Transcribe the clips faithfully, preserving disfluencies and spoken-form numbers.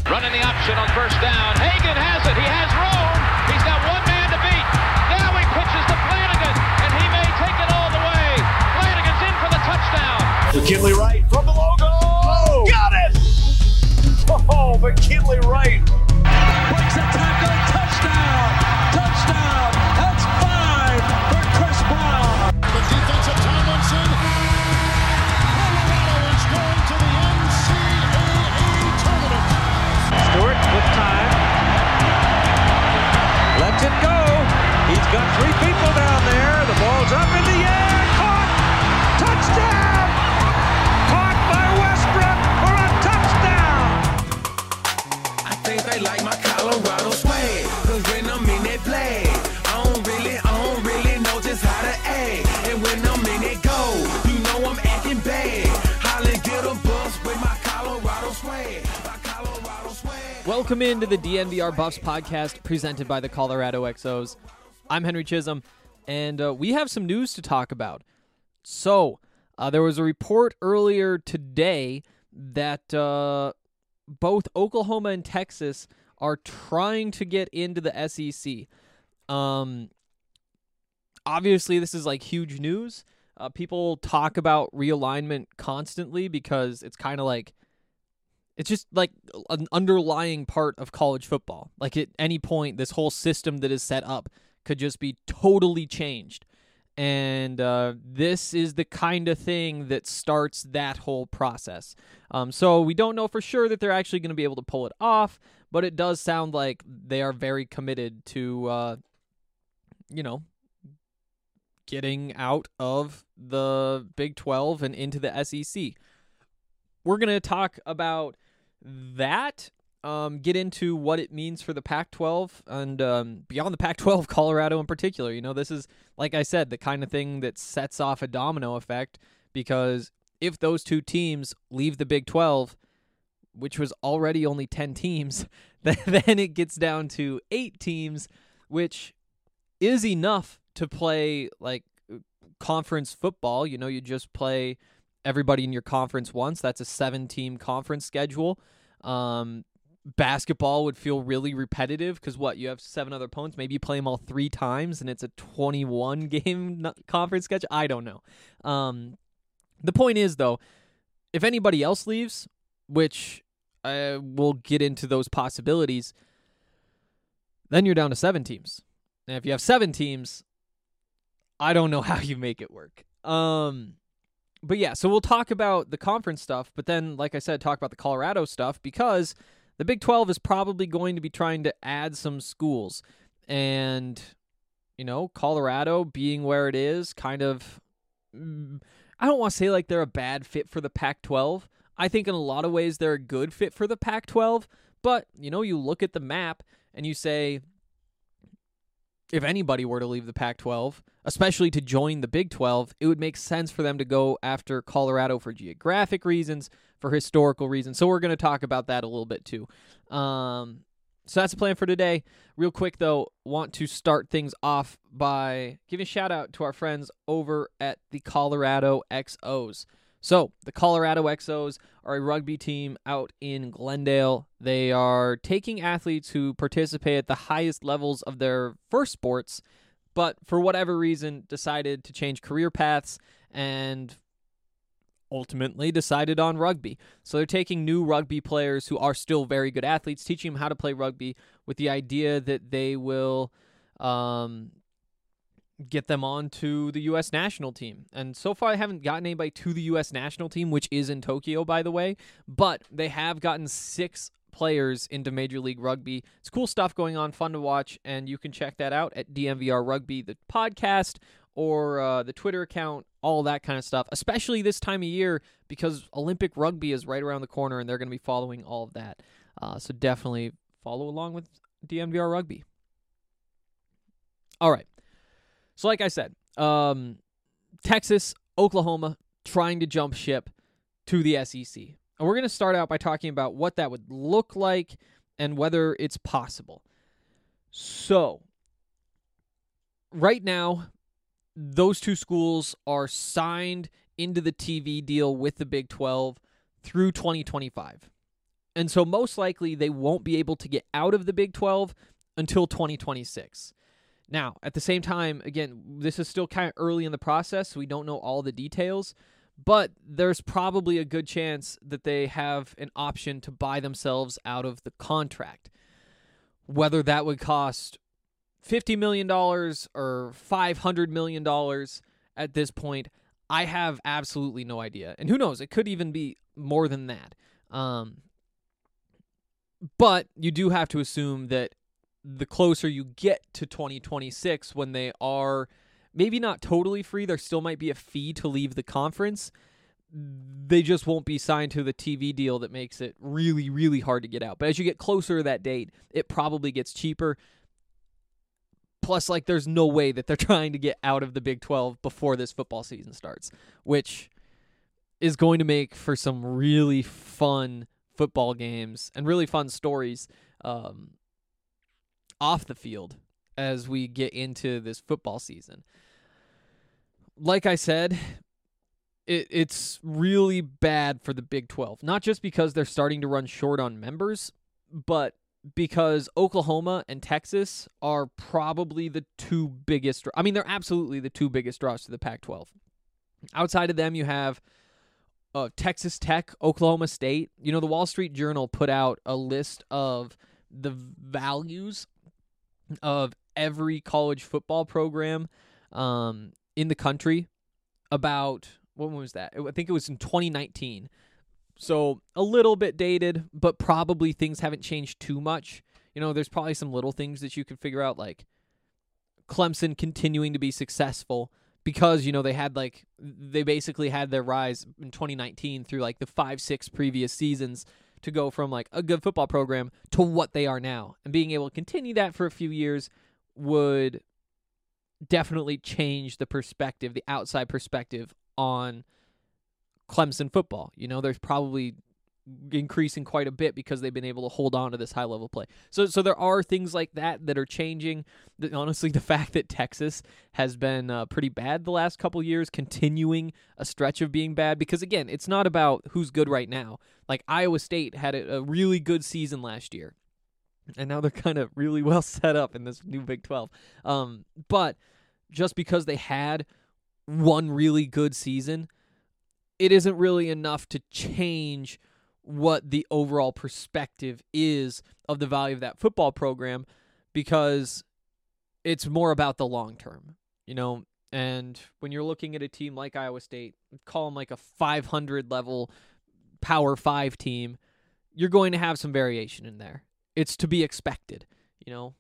Running the option on first down. Hagan has it. He has room. He's got one man to beat. Now he pitches to Flanagan, and he may take it all the way. Flanagan's in for the touchdown. McKinley Wright from the logo. Oh, got it! Oh, McKinley Wright. Breaks a tackle. Touchdown. Touchdown. That's five for Chris Brown. The defense of Tomlinson. Colorado is going to the N C double A tournament. Stewart with time. Lets it go. He's got three people down there. The ball's up in the air. Caught. Touchdown. Caught by Westbrook for a touchdown. I think they like my Colorado swag. Cause when I'm in that play, I don't really, I don't really know just how to act. And when I'm in that go, you know I'm acting bad. Holly get a bus with my Colorado swag. My Colorado swag. Welcome into the D N V R Buffs podcast presented by the Colorado X Os. I'm Henry Chisholm, and uh, we have some news to talk about. So, uh, there was a report earlier today that uh, both Oklahoma and Texas are trying to get into the S E C. Um, obviously, this is like huge news. Uh, people talk about realignment constantly because it's kind of like, it's just like an underlying part of college football. Like at any point, this whole system that is set up could just be totally changed. And uh, this is the kind of thing that starts that whole process. Um, so we don't know for sure that they're actually going to be able to pull it off, but it does sound like they are very committed to, uh, you know, getting out of the Big twelve and into the S E C. We're going to talk about that, um, get into what it means for the Pac twelve and um, beyond the Pac twelve, Colorado in particular. You know, this is, like I said, the kind of thing that sets off a domino effect, because if those two teams leave the Big twelve, which was already only ten teams, then it gets down to eight teams, which is enough to play like conference football. You know, you just play everybody in your conference once. That's a seven-team conference schedule. Um, basketball would feel really repetitive because what, you have seven other opponents. Maybe you play them all three times and it's a twenty-one game conference schedule. I don't know. Um, the point is, though, if anybody else leaves, which uh, we'll get into those possibilities, then you're down to seven teams. And if you have seven teams, I don't know how you make it work. Um, but yeah, so we'll talk about the conference stuff, but then, like I said, talk about the Colorado stuff, because the Big twelve is probably going to be trying to add some schools. And, you know, Colorado being where it is, kind of, I don't want to say like they're a bad fit for the Pac twelve. I think in a lot of ways they're a good fit for the Pac twelve, but, you know, you look at the map and you say, if anybody were to leave the Pac twelve, especially to join the Big twelve, it would make sense for them to go after Colorado for geographic reasons, for historical reasons. So we're going to talk about that a little bit too. Um, so that's the plan for today. Real quick, though, want to start things off by giving a shout out to our friends over at the Colorado X Os. So, the Colorado X Os are a rugby team out in Glendale. They are taking athletes who participate at the highest levels of their first sports, but for whatever reason decided to change career paths and ultimately decided on rugby. So they're taking new rugby players who are still very good athletes, teaching them how to play rugby with the idea that they will um, get them on to the U S national team. And so far, I haven't gotten anybody to the U S national team, which is in Tokyo, by the way, but they have gotten six players into Major League Rugby. It's cool stuff going on, fun to watch, and you can check that out at D M V R Rugby, the podcast, or uh, the Twitter account, all that kind of stuff, especially this time of year because Olympic rugby is right around the corner and they're going to be following all of that. Uh, so definitely follow along with D M V R Rugby. All right. So like I said, um, Texas, Oklahoma, trying to jump ship to the S E C. And we're going to start out by talking about what that would look like and whether it's possible. So, right now, those two schools are signed into the T V deal with the Big twelve through twenty twenty-five. And so most likely they won't be able to get out of the Big twelve until twenty twenty-six. Now, at the same time, again, this is still kind of early in the process, so we don't know all the details, but there's probably a good chance that they have an option to buy themselves out of the contract. Whether that would cost fifty million dollars or five hundred million dollars at this point, I have absolutely no idea. And who knows, it could even be more than that. Um, but you do have to assume that the closer you get to twenty twenty-six, when they are maybe not totally free, there still might be a fee to leave the conference. They just won't be signed to the T V deal that makes it really, really hard to get out. But as you get closer to that date, it probably gets cheaper. Plus, like, there's no way that they're trying to get out of the Big twelve before this football season starts, which is going to make for some really fun football games and really fun stories um, off the field as we get into this football season. Like I said, it, it's really bad for the Big twelve, not just because they're starting to run short on members, but because Oklahoma and Texas are probably the two biggest, I mean, they're absolutely the two biggest draws to the Pac twelve. Outside of them, you have uh, Texas Tech, Oklahoma State. You know, the Wall Street Journal put out a list of the values of every college football program um, in the country about, when was that? I think it was in twenty nineteen. So a little bit dated, but probably things haven't changed too much. You know, there's probably some little things that you could figure out, like Clemson continuing to be successful because, you know, they had like, they basically had their rise in twenty nineteen through like the five, six previous seasons to go from like a good football program to what they are now. And being able to continue that for a few years would definitely change the perspective, the outside perspective on Clemson football. You know, there's probably increasing quite a bit because they've been able to hold on to this high level play. So so there are things like that that are changing. The, honestly, the fact that Texas has been uh, pretty bad the last couple years, continuing a stretch of being bad, because again, it's not about who's good right now. Like Iowa State had a, a really good season last year, and now they're kind of really well set up in this new Big twelve. Um, but just because they had one really good season, it isn't really enough to change what the overall perspective is of the value of that football program, because it's more about the long term, you know. And when you're looking at a team like Iowa State, call them like a five hundred level Power Five team, you're going to have some variation in there. It's to be expected, you know,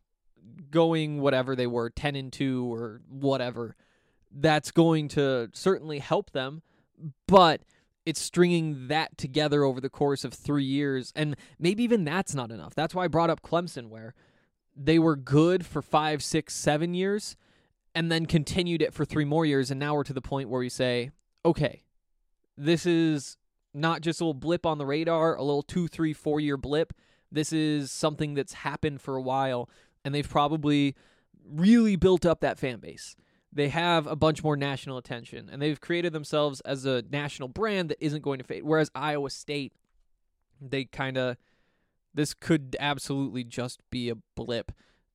going whatever they were, ten and two or whatever. That's going to certainly help them. But it's stringing that together over the course of three years, and maybe even that's not enough. That's why I brought up Clemson, where they were good for five, six, seven years, and then continued it for three more years, and now we're to the point where we say, okay, this is not just a little blip on the radar, a little two, three, four-year blip. This is something that's happened for a while, and they've probably really built up that fan base. They have a bunch more national attention, and they've created themselves as a national brand that isn't going to fade. Whereas Iowa State, they kind of, this could absolutely just be a blip.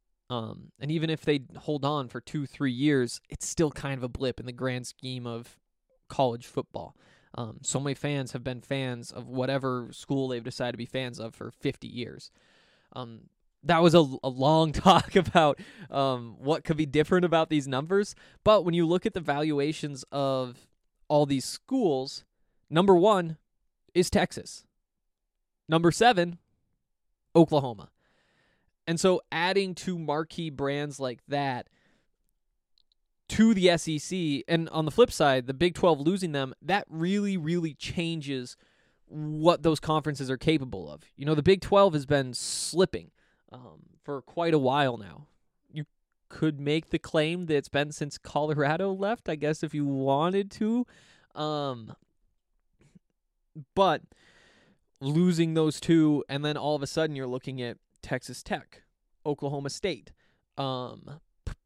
Um, and even if they hold on for two, three years, it's still kind of a blip in the grand scheme of college football. Um, so many fans have been fans of whatever school they've decided to be fans of for fifty years. Um, That was a, a long talk about um, what could be different about these numbers. But when you look at the valuations of all these schools, number one is Texas. Number seven, Oklahoma. And so adding two marquee brands like that to the S E C, and on the flip side, the Big twelve losing them, that really, really changes what those conferences are capable of. You know, the Big twelve has been slipping Um, for quite a while now. You could make the claim that it's been since Colorado left, I guess, if you wanted to. Um, but losing those two, and then all of a sudden you're looking at Texas Tech, Oklahoma State. Um,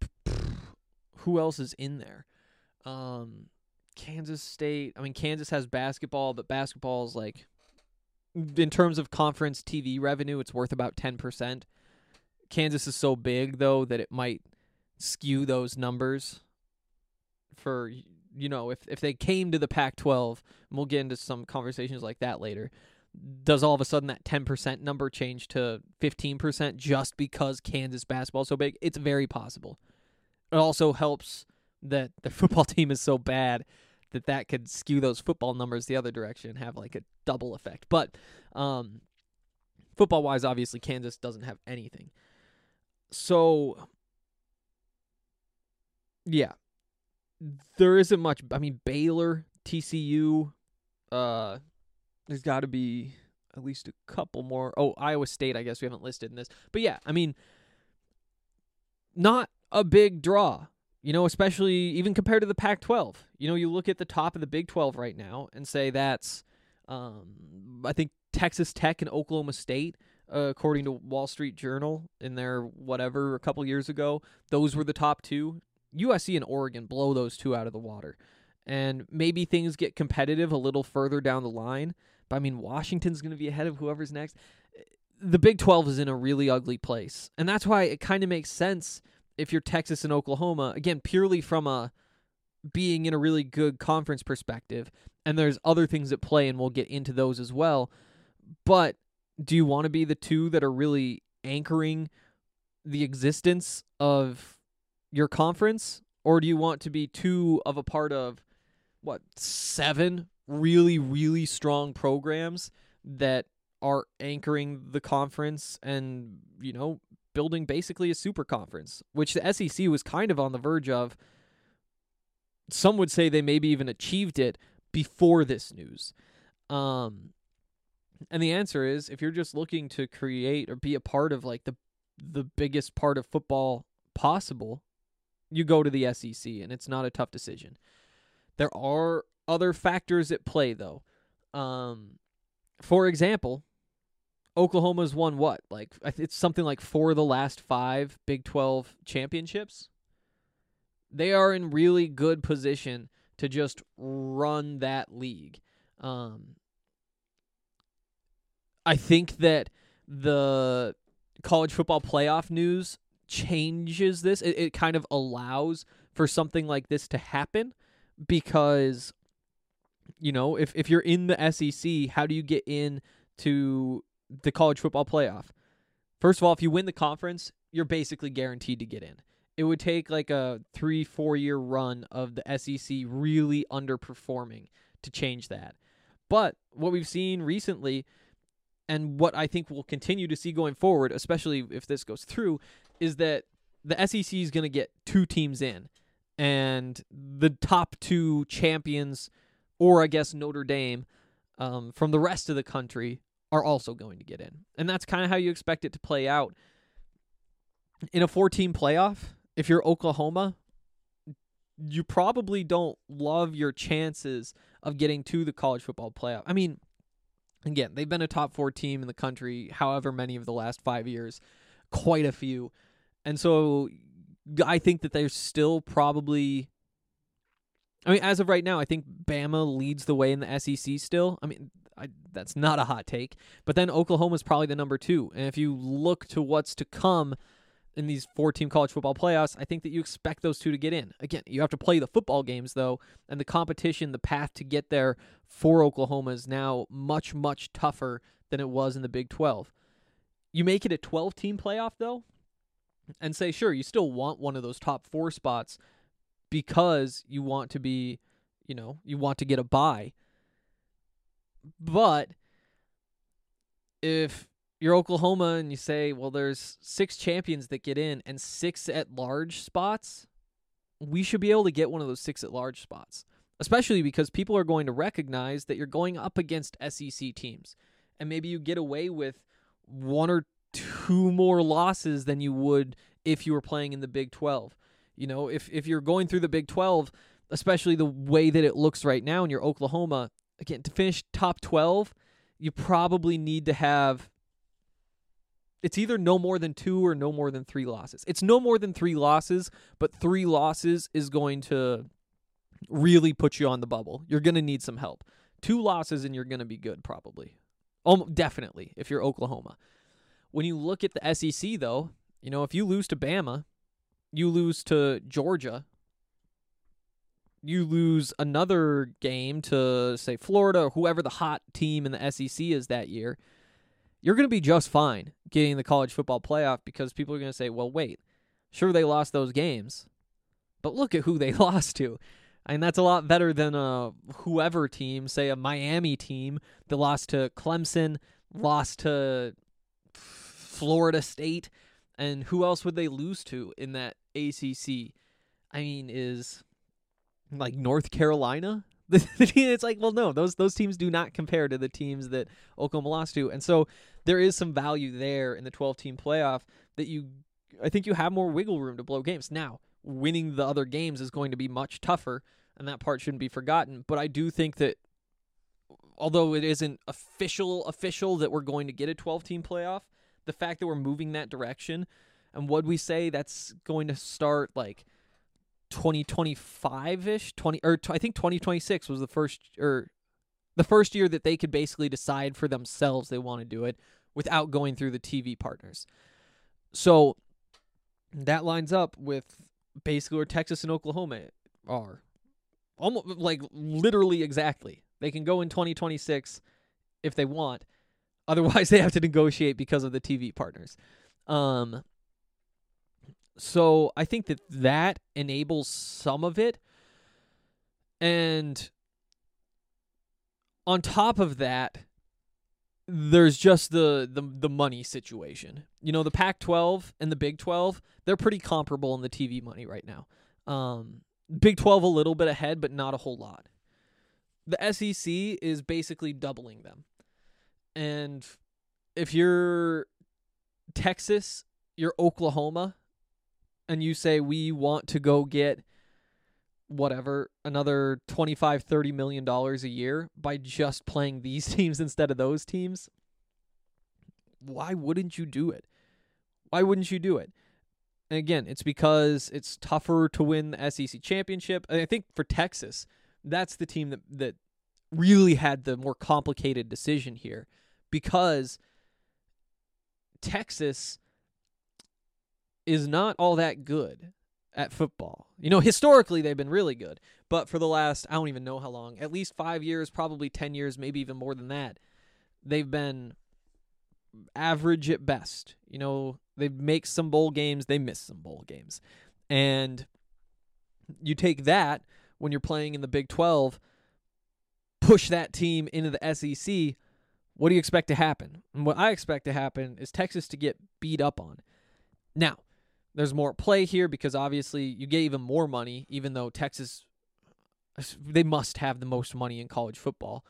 who else is in there? Um, Kansas State. I mean, Kansas has basketball, but basketball is like in terms of conference T V revenue, it's worth about ten percent. Kansas is so big, though, that it might skew those numbers for, you know, if, if they came to the Pac twelve, and we'll get into some conversations like that later, does all of a sudden that ten percent number change to fifteen percent just because Kansas basketball is so big? It's very possible. It also helps that the football team is so bad that that could skew those football numbers the other direction and have like a double effect. But um, football-wise, obviously, Kansas doesn't have anything. So, yeah, there isn't much. I mean, Baylor, T C U, uh, there's got to be at least a couple more. Oh, Iowa State, I guess we haven't listed in this. But yeah, I mean, not a big draw, you know, especially even compared to the Pac twelve. You know, you look at the top of the Big twelve right now and say that's, um, I think, Texas Tech and Oklahoma State, uh, according to Wall Street Journal in their whatever a couple years ago. Those were the top two. U S C and Oregon blow those two out of the water. And maybe things get competitive a little further down the line. But, I mean, Washington's going to be ahead of whoever's next. The Big twelve is in a really ugly place. And that's why it kind of makes sense if you're Texas and Oklahoma, again, purely from a being in a really good conference perspective. And there's other things at play, and we'll get into those as well. But do you want to be the two that are really anchoring the existence of your conference? Or do you want to be two of a part of, what, seven really, really strong programs that are anchoring the conference and, you know, building basically a super conference, which the S E C was kind of on the verge of. Some would say they maybe even achieved it before this news. Um, and the answer is, if you're just looking to create or be a part of like the the biggest part of football possible, you go to the S E C, and it's not a tough decision. There are other factors at play, though. Um, for example, Oklahoma's won what? Like, it's something like four of the last five Big twelve championships. They are in really good position to just run that league. Um, I think that the college football playoff news changes this. It, it kind of allows for something like this to happen because, you know, if, if you're in the S E C, how do you get in to the college football playoff? First of all, if you win the conference, you're basically guaranteed to get in. It would take like a three, four-year run of the S E C really underperforming to change that. But what we've seen recently, and what I think we'll continue to see going forward, especially if this goes through, is that the S E C is going to get two teams in. And the top two champions, or I guess Notre Dame, um, from the rest of the country are also going to get in. And that's kind of how you expect it to play out. In a four-team playoff, if you're Oklahoma, you probably don't love your chances of getting to the college football playoff. I mean, again, they've been a top four team in the country however many of the last five years, quite a few. And so I think that they're still probably, I mean, as of right now, I think Bama leads the way in the S E C still. I mean, I, that's not a hot take. But then Oklahoma's probably the number two. And if you look to what's to come in these four-team college football playoffs, I think that you expect those two to get in. Again, you have to play the football games, though, and the competition, the path to get there for Oklahoma is now much, much tougher than it was in the Big twelve. You make it a twelve-team playoff, though, and say, sure, you still want one of those top four spots because you want to be, you know, you want to get a bye. But if you're Oklahoma and you say, well, there's six champions that get in and six at-large spots, we should be able to get one of those six at-large spots, especially because people are going to recognize that you're going up against S E C teams. And maybe you get away with one or two more losses than you would if you were playing in the Big twelve. You know, if, if you're going through the Big twelve, especially the way that it looks right now and you're Oklahoma, again, to finish top twelve, you probably need to have, it's either no more than two or no more than three losses. It's no more than three losses, but three losses is going to really put you on the bubble. You're going to need some help. Two losses and you're going to be good probably. Um, definitely, if you're Oklahoma. When you look at the S E C, though, you know, if you lose to Bama, you lose to Georgia, you lose another game to, say, Florida or whoever the hot team in the S E C is that year, you're going to be just fine getting the college football playoff because people are going to say, well, wait, sure, they lost those games, but look at who they lost to. I mean, that's a lot better than a whoever team, say a Miami team that lost to Clemson, lost to Florida State, and who else would they lose to in that A C C? I mean, is like North Carolina? It's like, well, no, those those teams do not compare to the teams that Oklahoma lost to. And so there is some value there in the twelve-team playoff that you, I think you have more wiggle room to blow games. Now, winning the other games is going to be much tougher, and that part shouldn't be forgotten. But I do think that although it isn't official, official that we're going to get a twelve-team playoff, the fact that we're moving that direction, and what we say that's going to start like twenty twenty-five-ish, twenty or t- I think twenty twenty-six was the first or the first year that they could basically decide for themselves they want to do it without going through the T V partners. So that lines up with basically where Texas and Oklahoma are. Almost like literally exactly. They can go in twenty twenty-six if they want. Otherwise, they have to negotiate because of the T V partners. Um, so I think that that enables some of it. And on top of that, there's just the, the, the money situation. You know, the Pac twelve and the Big twelve, they're pretty comparable in the T V money right now. Um, Big twelve a little bit ahead, but not a whole lot. The S E C is basically doubling them. And if you're Texas, you're Oklahoma, and you say we want to go get whatever, another twenty-five, thirty million dollars a year by just playing these teams instead of those teams, why wouldn't you do it? Why wouldn't you do it? And again, it's because it's tougher to win the S E C championship. And I think for Texas, that's the team that, that really had the more complicated decision here, because Texas is not all that good at football. You know, historically they've been really good, but for the last, I don't even know how long, at least five years, probably ten years, maybe even more than that, they've been average at best. You know, they make some bowl games, they miss some bowl games. And you take that when you're playing in the Big twelve, push that team into the S E C, what do you expect to happen? And what I expect to happen is Texas to get beat up on. Now, there's more play here because obviously you get even more money, even though Texas, they must have the most money in college football.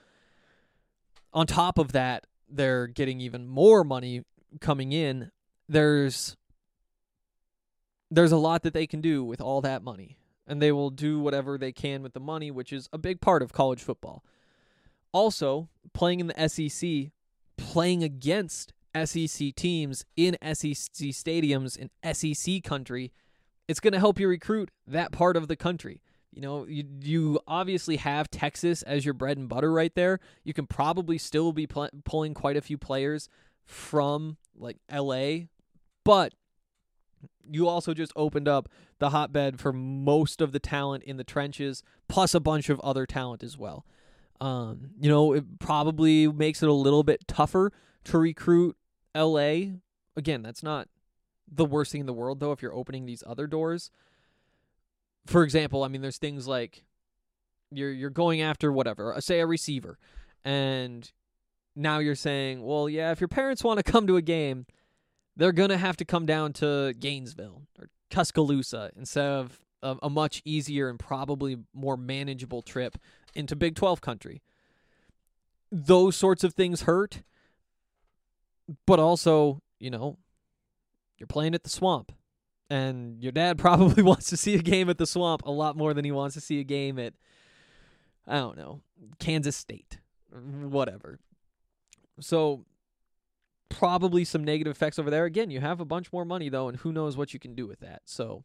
On top of that, they're getting even more money coming in. There's there's a lot that they can do with all that money, and they will do whatever they can with the money, which is a big part of college football. Also, playing in the S E C, playing against S E C teams in S E C stadiums in S E C country, it's going to help you recruit that part of the country. You know, you you obviously have Texas as your bread and butter right there. You can probably still be pl- pulling quite a few players from like L A, but you also just opened up the hotbed for most of the talent in the trenches, plus a bunch of other talent as well. Um, you know, it probably makes it a little bit tougher to recruit L A. Again, that's not the worst thing in the world, though, if you're opening these other doors. For example, I mean, there's things like you're you're going after whatever, say a receiver, and now you're saying, well, yeah, if your parents want to come to a game, they're going to have to come down to Gainesville or Tuscaloosa instead of a, a much easier and probably more manageable trip into Big twelve country. Those sorts of things hurt, but also, you know, you're playing at the Swamp, and your dad probably wants to see a game at the Swamp a lot more than he wants to see a game at, I don't know, Kansas State, or whatever. So probably some negative effects over there. Again, you have a bunch more money, though, and who knows what you can do with that. So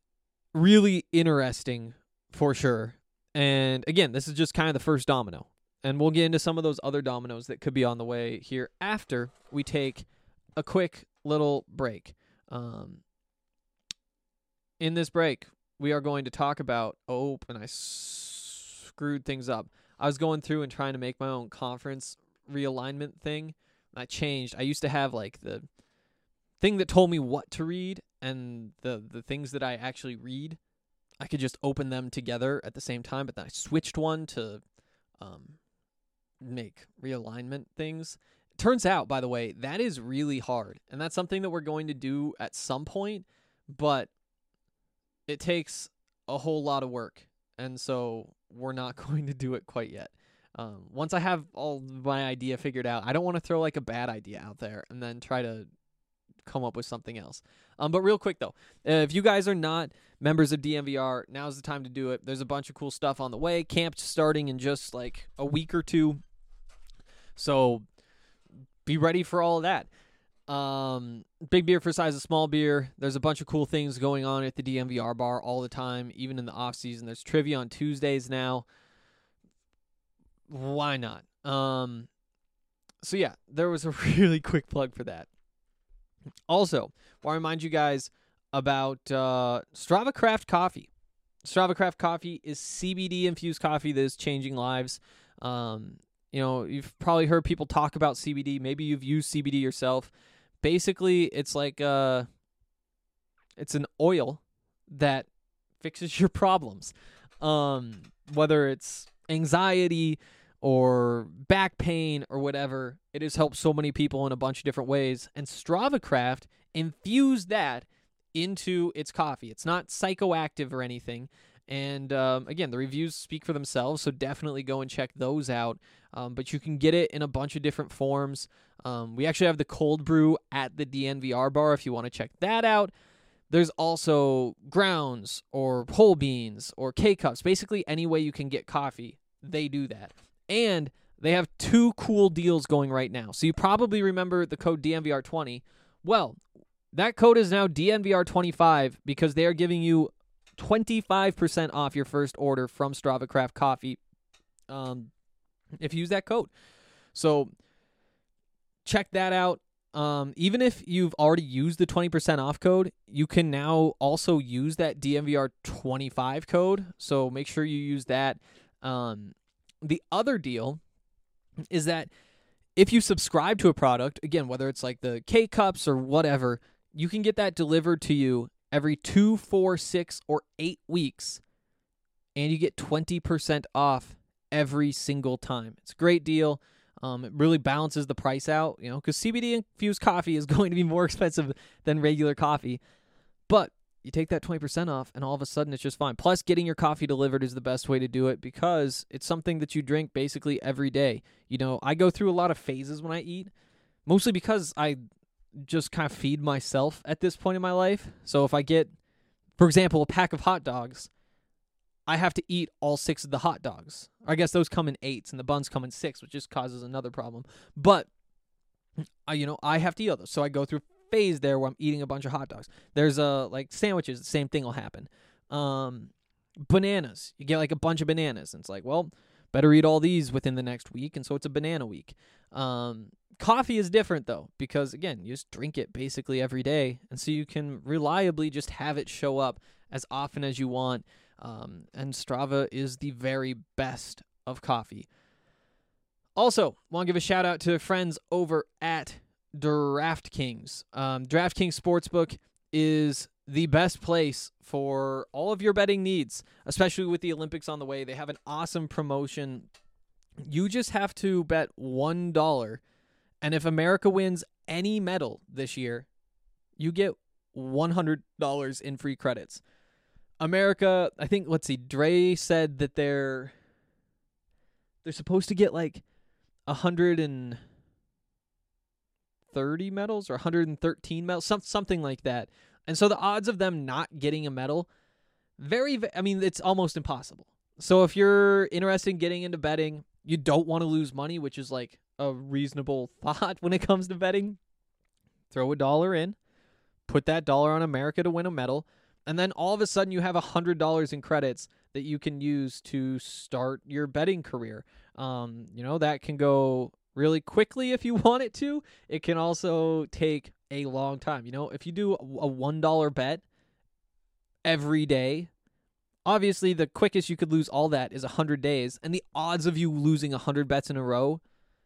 really interesting for sure. And again, this is just kind of the first domino. And we'll get into some of those other dominoes that could be on the way here after we take a quick little break. Um, in this break, we are going to talk about, oh, and I s- screwed things up. I was going through and trying to make my own conference realignment thing. And I changed. I used to have like the thing that told me what to read and the, the things that I actually read. I could just open them together at the same time, but then I switched one to um, make realignment things. Turns out, by the way, that is really hard, and that's something that we're going to do at some point, but it takes a whole lot of work, and so we're not going to do it quite yet. Um, once I have all my idea figured out, I don't want to throw like a bad idea out there and then try to come up with something else. Um, but real quick though, uh, if you guys are not members of D N V R, now's the time to do it. There's a bunch of cool stuff on the way. Camp's starting in just like a week or two, so be ready for all of that. Um, big beer for size of small beer. There's a bunch of cool things going on at the D N V R bar all the time, even in the off season. There's trivia on Tuesdays now. Why not? Um, so yeah, there was a really quick plug for that. Also, I want to remind you guys about uh, Strava Craft Coffee. Strava Craft Coffee is C B D infused coffee that is changing lives. Um, you know, you've probably heard people talk about C B D. Maybe you've used C B D yourself. Basically, it's like uh, it's an oil that fixes your problems. Um, whether it's anxiety or back pain or whatever, it has helped so many people in a bunch of different ways. And Strava Craft infused that into its coffee. It's not psychoactive or anything. And um, again, the reviews speak for themselves, so definitely go and check those out. Um, but you can get it in a bunch of different forms. Um, we actually have the cold brew at the D N V R bar if you want to check that out. There's also grounds or whole beans or K-Cups. Basically, any way you can get coffee, they do that. And they have two cool deals going right now. So you probably remember the code D N V R twenty. Well, that code is now D N V R twenty-five because they are giving you twenty-five percent off your first order from Strava Craft Coffee um, if you use that code. So check that out. Um, even if you've already used the twenty percent off code, you can now also use that D N V R twenty-five code. So make sure you use that. Um, the other deal is that if you subscribe to a product, again, whether it's like the K-Cups or whatever, you can get that delivered to you every two, four, six, or eight weeks, and you get twenty percent off every single time. It's a great deal. Um, it really balances the price out, you know, because C B D-infused coffee is going to be more expensive than regular coffee, but you take that twenty percent off, and all of a sudden it's just fine. Plus, getting your coffee delivered is the best way to do it because it's something that you drink basically every day. You know, I go through a lot of phases when I eat, mostly because I just kind of feed myself at this point in my life. So if I get, for example, a pack of hot dogs, I have to eat all six of the hot dogs. I guess those come in eights and the buns come in six, which just causes another problem. But, I, you know, I have to eat all those. So I go through a phase there where I'm eating a bunch of hot dogs. There's uh, like sandwiches, the same thing will happen. Um, bananas. You get like a bunch of bananas. And it's like, well, better eat all these within the next week. And so it's a banana week. Um, coffee is different, though, because, again, you just drink it basically every day. And so you can reliably just have it show up as often as you want. Um, and Strava is the very best of coffee. Also, want to give a shout out to friends over at DraftKings. Um, DraftKings Sportsbook is the best place for all of your betting needs, especially with the Olympics on the way. They have an awesome promotion. You just have to bet one dollar, and if America wins any medal this year, you get one hundred dollars in free credits. America, I think, let's see, Dre said that they're they're supposed to get like one hundred thirty medals or one hundred thirteen medals, some, something like that. And so the odds of them not getting a medal, very, I mean, it's almost impossible. So if you're interested in getting into betting, you don't want to lose money, which is like a reasonable thought when it comes to betting, throw a dollar in, put that dollar on America to win a medal, and then all of a sudden you have one hundred dollars in credits that you can use to start your betting career. Um, you know, that can go really quickly if you want it to. It can also take a long time. You know, if you do a one dollar bet every day, obviously the quickest you could lose all that is one hundred days, and the odds of you losing one hundred bets in a row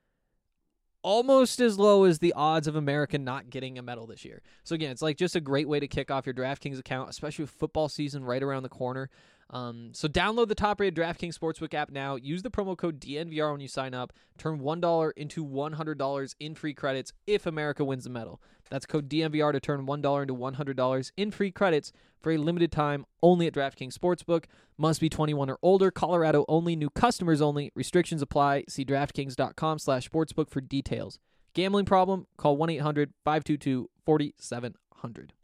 almost as low as the odds of America not getting a medal this year. So again, it's like just a great way to kick off your DraftKings account, especially with football season right around the corner. Um, so download the top-rated DraftKings Sportsbook app now. Use the promo code D N V R when you sign up. Turn one dollar into one hundred dollars in free credits if America wins the medal. That's code D N V R to turn one dollar into one hundred dollars in free credits for a limited time only at DraftKings Sportsbook. Must be twenty-one or older. Colorado only. New customers only. Restrictions apply. See DraftKings.com slash sportsbook for details. Gambling problem? Call one eight hundred five two two four seven zero zero.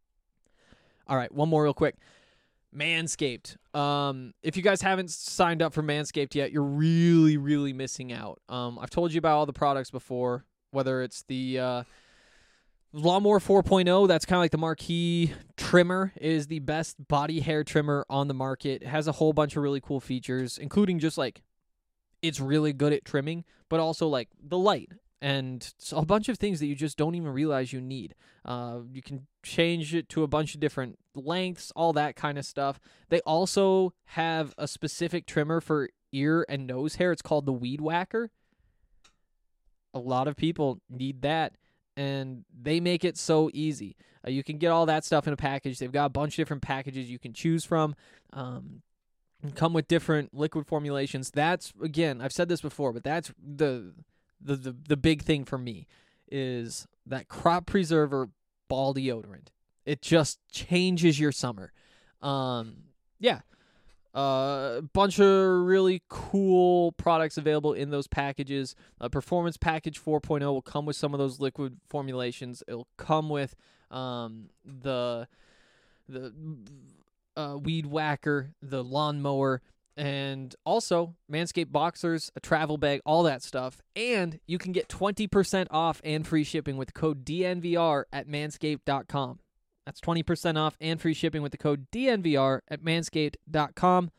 All right, one more real quick. Manscaped. Um, if you guys haven't signed up for Manscaped yet, you're really, really missing out. Um, I've told you about all the products before, whether it's the uh, Lawnmower four point oh, that's kind of like the marquee trimmer. It is the best body hair trimmer on the market. It has a whole bunch of really cool features, including just like it's really good at trimming, but also like the light and a bunch of things that you just don't even realize you need. Uh, you can change it to a bunch of different lengths, all that kind of stuff. They also have a specific trimmer for ear and nose hair. It's called the Weed Whacker. A lot of people need that, and they make it so easy. Uh, you can get all that stuff in a package. They've got a bunch of different packages you can choose from. Um, come with different liquid formulations. That's, again, I've said this before, but that's the... The, the the big thing for me is that crop preserver ball deodorant. It just changes your summer. Um, yeah. A uh, bunch of really cool products available in those packages. Uh, Performance Package four point oh will come with some of those liquid formulations. It'll come with um, the the uh, Weed Whacker, the lawnmower, and also Manscaped Boxers, a travel bag, all that stuff. And you can get twenty percent off and free shipping with the code D N V R at manscaped dot com. That's twenty percent off and free shipping with the code D N V R at manscaped dot com.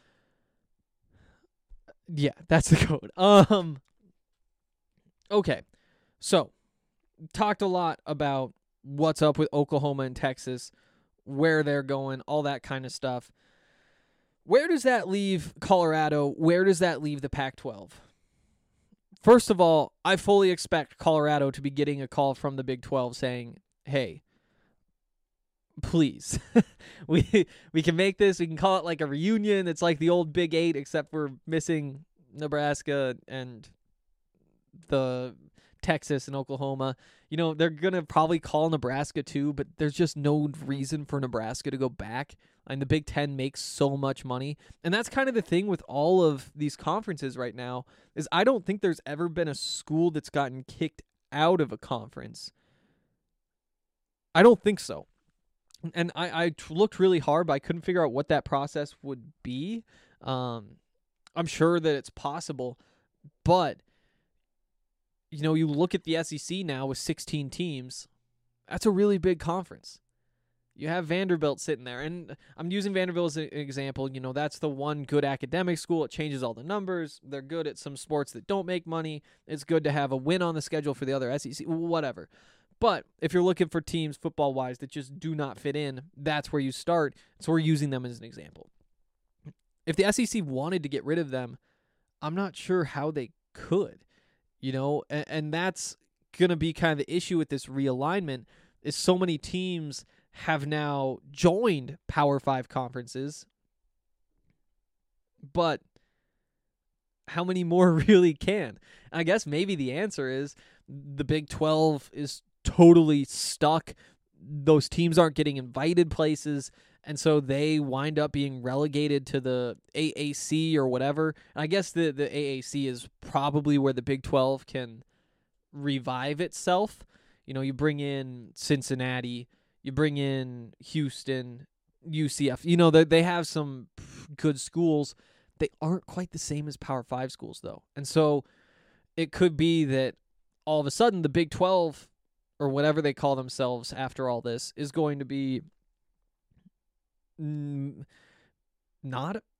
Yeah, that's the code. Um. Okay, so talked a lot about what's up with Oklahoma and Texas, where they're going, all that kind of stuff. Where does that leave Colorado? Where does that leave the Pac twelve? First of all, I fully expect Colorado to be getting a call from the Big twelve saying, hey, please, we we can make this. We can call it like a reunion. It's like the old Big Eight, except we're missing Nebraska and the Texas and Oklahoma. You know, they're going to probably call Nebraska too, but there's just no reason for Nebraska to go back. And the Big Ten makes so much money. And that's kind of the thing with all of these conferences right now is I don't think there's ever been a school that's gotten kicked out of a conference. I don't think so. And I, I looked really hard, but I couldn't figure out what that process would be. Um, I'm sure that it's possible, but you know, you look at the S E C now with sixteen teams. That's a really big conference. You have Vanderbilt sitting there, and I'm using Vanderbilt as an example. You know, that's the one good academic school. It changes all the numbers. They're good at some sports that don't make money. It's good to have a win on the schedule for the other S E C, whatever. But if you're looking for teams football-wise that just do not fit in, that's where you start. So we're using them as an example. If the S E C wanted to get rid of them, I'm not sure how they could. You know, and, and that's going to be kind of the issue with this realignment is so many teams have now joined Power Five conferences, but how many more really can? I guess maybe the answer is the Big twelve is totally stuck. Those teams aren't getting invited places, and so they wind up being relegated to the A A C or whatever. And I guess the, the A A C is probably where the Big twelve can revive itself. You know, you bring in Cincinnati, you bring in Houston, U C F. You know, they, they have some good schools. They aren't quite the same as Power Five schools, though. And so it could be that all of a sudden the Big twelve, or whatever they call themselves after all this, is going to be mm, not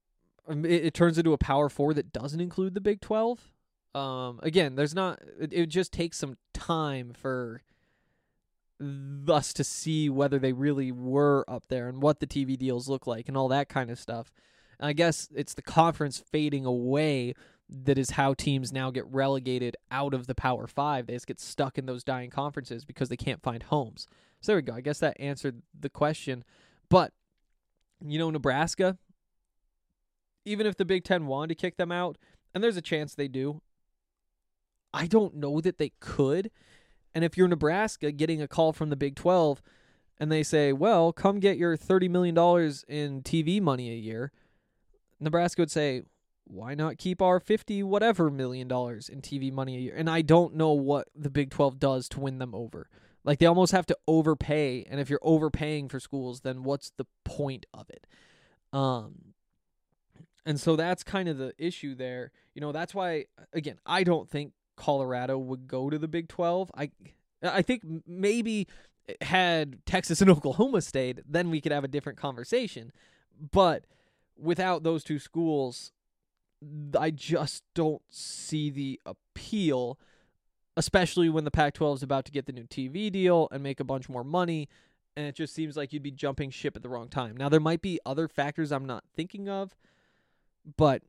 um, it, it turns into a Power Four that doesn't include the Big twelve. Um, again, there's not. It, it just takes some time for us to see whether they really were up there and what the T V deals look like and all that kind of stuff. And I guess it's the conference fading away that is how teams now get relegated out of the Power Five. They just get stuck in those dying conferences because they can't find homes. So there we go. I guess that answered the question. But, you know, Nebraska, even if the Big Ten wanted to kick them out, and there's a chance they do, I don't know that they could. And if you're Nebraska getting a call from the Big twelve and they say, well, come get your thirty million dollars in T V money a year, Nebraska would say, why not keep our fifty whatever million dollars in T V money a year? And I don't know what the Big twelve does to win them over. Like, they almost have to overpay, and if you're overpaying for schools, then what's the point of it? Um, and so that's kind of the issue there. You know, that's why, again, I don't think Colorado would go to the Big twelve. I I think maybe had Texas and Oklahoma stayed, then we could have a different conversation. But without those two schools, I just don't see the appeal, especially when the Pac twelve is about to get the new T V deal and make a bunch more money, and it just seems like you'd be jumping ship at the wrong time. Now, there might be other factors I'm not thinking of, but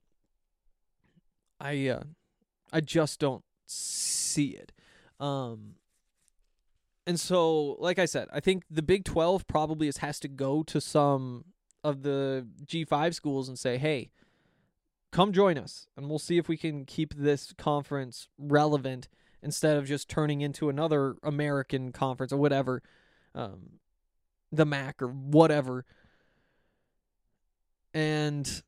I uh, I just don't see it. Um, and so, like I said, I think the Big twelve probably is, has to go to some of the G five schools and say, hey, come join us, and we'll see if we can keep this conference relevant instead of just turning into another American conference or whatever, um, the M A C or whatever. And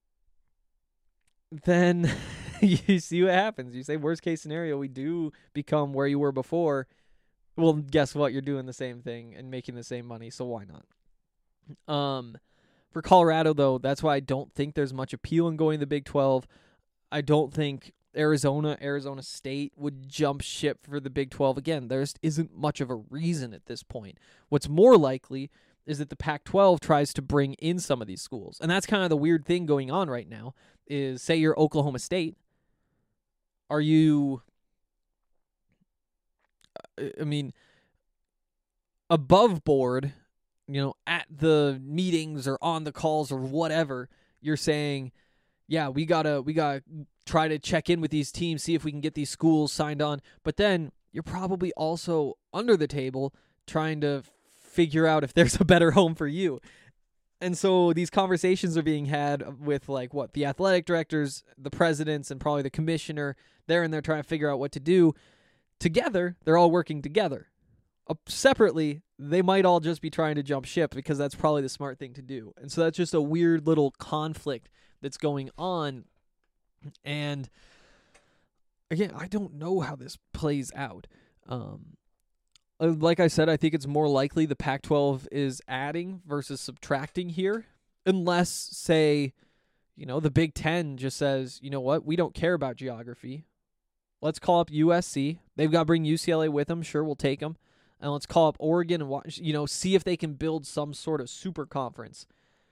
then you see what happens. You say, worst case scenario, we do become where you were before. Well, guess what? You're doing the same thing and making the same money, so why not? Um, for Colorado, though, that's why I don't think there's much appeal in going to the Big twelve. I don't think Arizona, Arizona State would jump ship for the Big twelve. Again, there isn't much of a reason at this point. What's more likely is that the Pac twelve tries to bring in some of these schools. And that's kind of the weird thing going on right now is, say you're Oklahoma State. Are you, I mean, above board, you know, at the meetings or on the calls or whatever, you're saying, yeah, we gotta we gotta try to check in with these teams, see if we can get these schools signed on. But then you're probably also under the table trying to figure out if there's a better home for you. And so these conversations are being had with, like, what, the athletic directors, the presidents, and probably the commissioner. They're in there trying to figure out what to do. Together, they're all working together. Uh, separately, they might all just be trying to jump ship because that's probably the smart thing to do. And so that's just a weird little conflict that's going on. And again, I don't know how this plays out. Um, like I said, I think it's more likely the Pac twelve is adding versus subtracting here, unless, say, you know, the Big Ten just says, you know what, we don't care about geography. Let's call up U S C. They've got to bring U C L A with them. Sure, we'll take them. And let's call up Oregon and watch, you know, see if they can build some sort of super conference.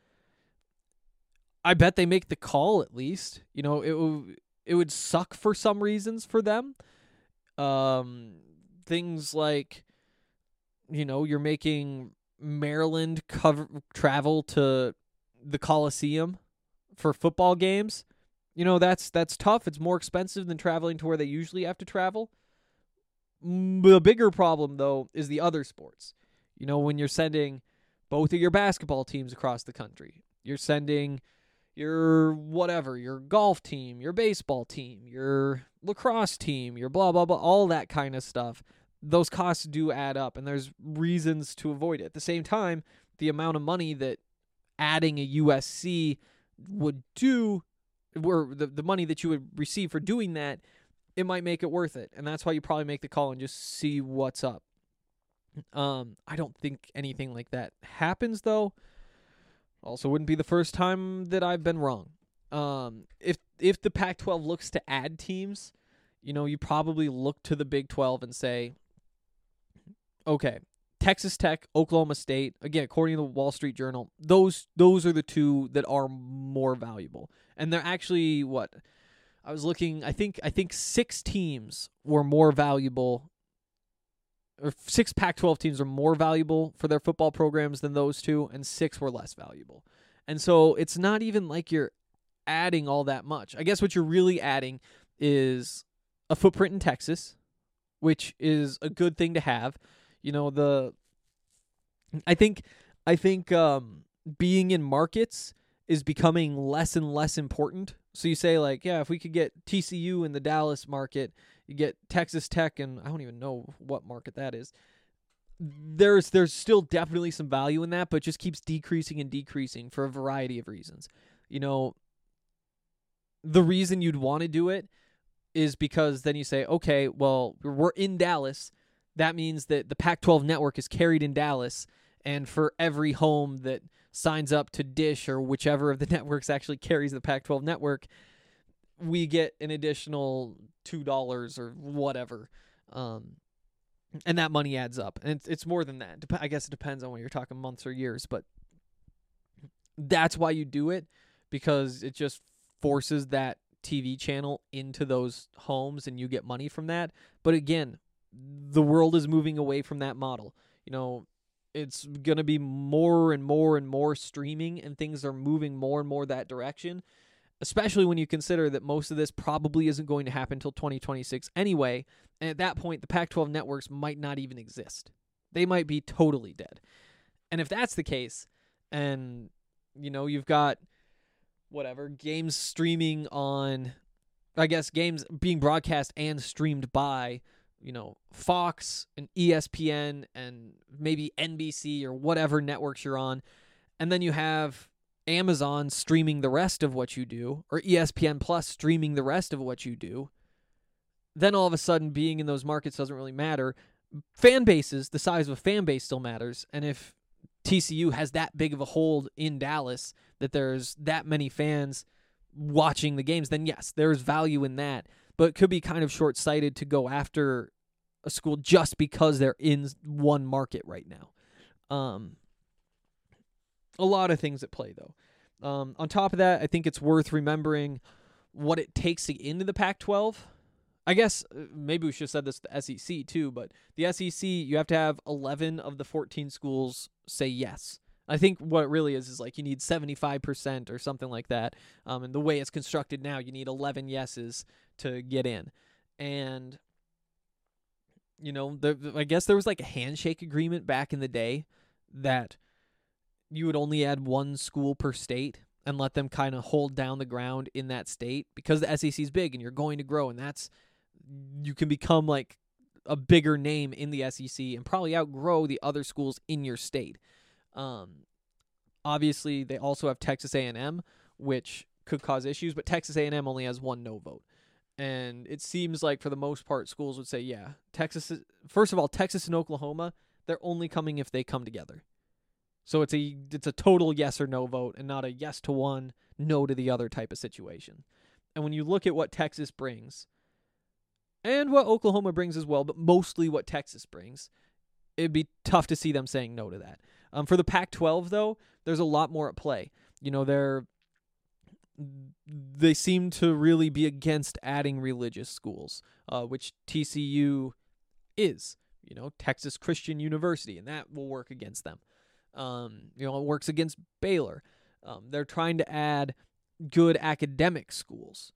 I bet they make the call at least. You know, it w- it would suck for some reasons for them. Um, things like, you know, you're making Maryland cover travel to the Coliseum for football games. You know, that's that's tough. It's more expensive than traveling to where they usually have to travel. The bigger problem, though, is the other sports. You know, when you're sending both of your basketball teams across the country, you're sending your whatever, your golf team, your baseball team, your lacrosse team, your blah, blah, blah, all that kind of stuff. Those costs do add up, and there's reasons to avoid it. At the same time, the amount of money that adding a U S C would do, or the, the money that you would receive for doing that, it might make it worth it. And that's why you probably make the call and just see what's up. Um, I don't think anything like that happens, though. Also wouldn't be the first time that I've been wrong. Um, if if the Pac twelve looks to add teams, you know, you probably look to the Big twelve and say, okay, Texas Tech, Oklahoma State, again, according to the Wall Street Journal, those those are the two that are more valuable. And they're actually, what, I was looking, I think I think six teams were more valuable, or six Pac twelve teams are more valuable for their football programs than those two, and six were less valuable. And so it's not even like you're adding all that much. I guess what you're really adding is a footprint in Texas, which is a good thing to have. You know, the I think I think um, being in markets is becoming less and less important. So you say, like, yeah, if we could get T C U in the Dallas market, you get Texas Tech, and I don't even know what market that is. There's there's still definitely some value in that, but it just keeps decreasing and decreasing for a variety of reasons. You know, the reason you'd want to do it is because then you say, okay, well, we're in Dallas. That means that the Pac twelve network is carried in Dallas, and for every home that signs up to Dish or whichever of the networks actually carries the Pac twelve network, we get an additional two dollars or whatever. Um, and that money adds up. And it's, it's more than that. Dep- I guess it depends on when you're talking months or years, but that's why you do it, because it just forces that T V channel into those homes and you get money from that. But again, the world is moving away from that model. You know, it's going to be more and more and more streaming, and things are moving more and more that direction, especially when you consider that most of this probably isn't going to happen until twenty twenty-six anyway. And at that point, the Pac twelve networks might not even exist. They might be totally dead. And if that's the case, and, you know, you've got whatever, games streaming on, I guess, games being broadcast and streamed by, you know, Fox and E S P N and maybe N B C or whatever networks you're on. And then you have Amazon streaming the rest of what you do, or E S P N Plus streaming the rest of what you do. Then all of a sudden, being in those markets doesn't really matter. Fan bases, the size of a fan base still matters. And if T C U has that big of a hold in Dallas, that there's that many fans watching the games, then yes, there's value in that. But it could be kind of short-sighted to go after a school just because they're in one market right now. Um, a lot of things at play, though. Um, on top of that, I think it's worth remembering what it takes to get into the Pac twelve. I guess maybe we should have said this to the S E C too, but the S E C, you have to have eleven of the fourteen schools say yes. I think what it really is is like you need seventy-five percent or something like that. Um, and the way it's constructed now, you need eleven yeses to get in. And, you know, the, I guess there was like a handshake agreement back in the day that you would only add one school per state and let them kind of hold down the ground in that state, because the S E C is big and you're going to grow, and that's, you can become like a bigger name in the S E C and probably outgrow the other schools in your state. Um, obviously, they also have Texas A and M, which could cause issues, but Texas A and M only has one no vote. And it seems like for the most part, schools would say, yeah, Texas is, first of all, Texas and Oklahoma, they're only coming if they come together. So it's a it's a total yes or no vote, and not a yes to one, no to the other type of situation. And when you look at what Texas brings, and what Oklahoma brings as well, but mostly what Texas brings, it'd be tough to see them saying no to that. Um, for the Pac twelve, though, there's a lot more at play. You know, they're they seem to really be against adding religious schools, uh, which T C U is. You know, Texas Christian University, and that will work against them. Um, you know, it works against Baylor. Um, they're trying to add good academic schools.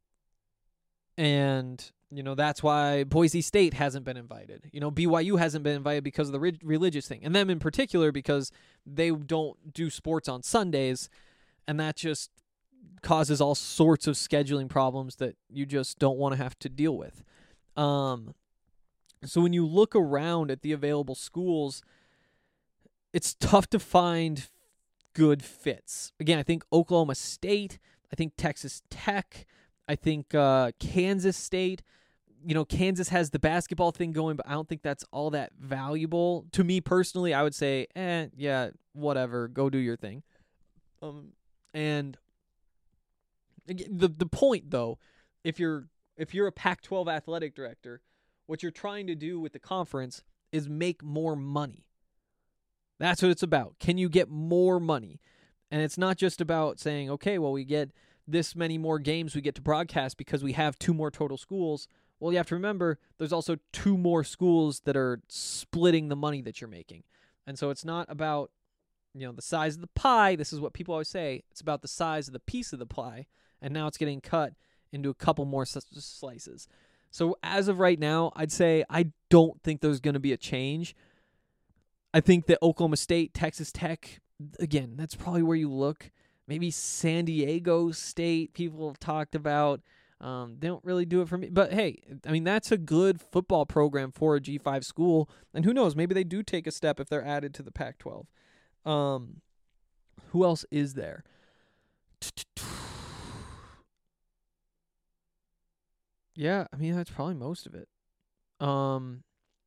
And, you know, that's why Boise State hasn't been invited. You know, B Y U hasn't been invited because of the re- religious thing. And them in particular because they don't do sports on Sundays, and that just causes all sorts of scheduling problems that you just don't want to have to deal with. Um, so when you look around at the available schools, it's tough to find good fits. Again, I think Oklahoma State, I think Texas Tech, I think uh, Kansas State. You know, Kansas has the basketball thing going, but I don't think that's all that valuable. To me personally, I would say, eh, yeah, whatever, go do your thing. Um, and the the point though, if you're if you're a Pac twelve athletic director, what you're trying to do with the conference is make more money. That's what it's about. Can you get more money? And it's not just about saying, okay, well, we get this many more games we get to broadcast because we have two more total schools. Well, you have to remember there's also two more schools that are splitting the money that you're making. And so it's not about, you know, the size of the pie. This is what people always say. It's about the size of the piece of the pie. And now it's getting cut into a couple more s- slices. So as of right now, I'd say I don't think there's going to be a change. I think that Oklahoma State, Texas Tech, again, that's probably where you look. Maybe San Diego State, people have talked about. Um, they don't really do it for me. But, hey, I mean, that's a good football program for a G five school. And who knows, maybe they do take a step if they're added to the Pac twelve. Um, who else is there? Yeah, I mean, that's probably most of it. Um,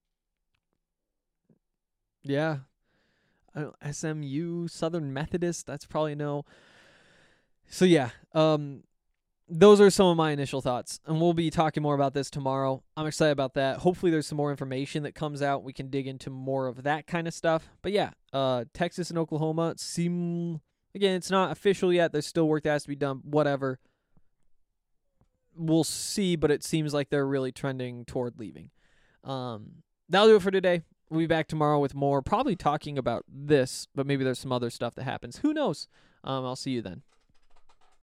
yeah. I don't, S M U, Southern Methodist, that's probably no. So, yeah, um, those are some of my initial thoughts. And we'll be talking more about this tomorrow. I'm excited about that. Hopefully there's some more information that comes out. We can dig into more of that kind of stuff. But, yeah, uh, Texas and Oklahoma seem, again, it's not official yet. There's still work that has to be done, whatever. We'll see, but it seems like they're really trending toward leaving. Um, that'll do it for today. We'll be back tomorrow with more, probably talking about this, but maybe there's some other stuff that happens. Who knows? Um, I'll see you then.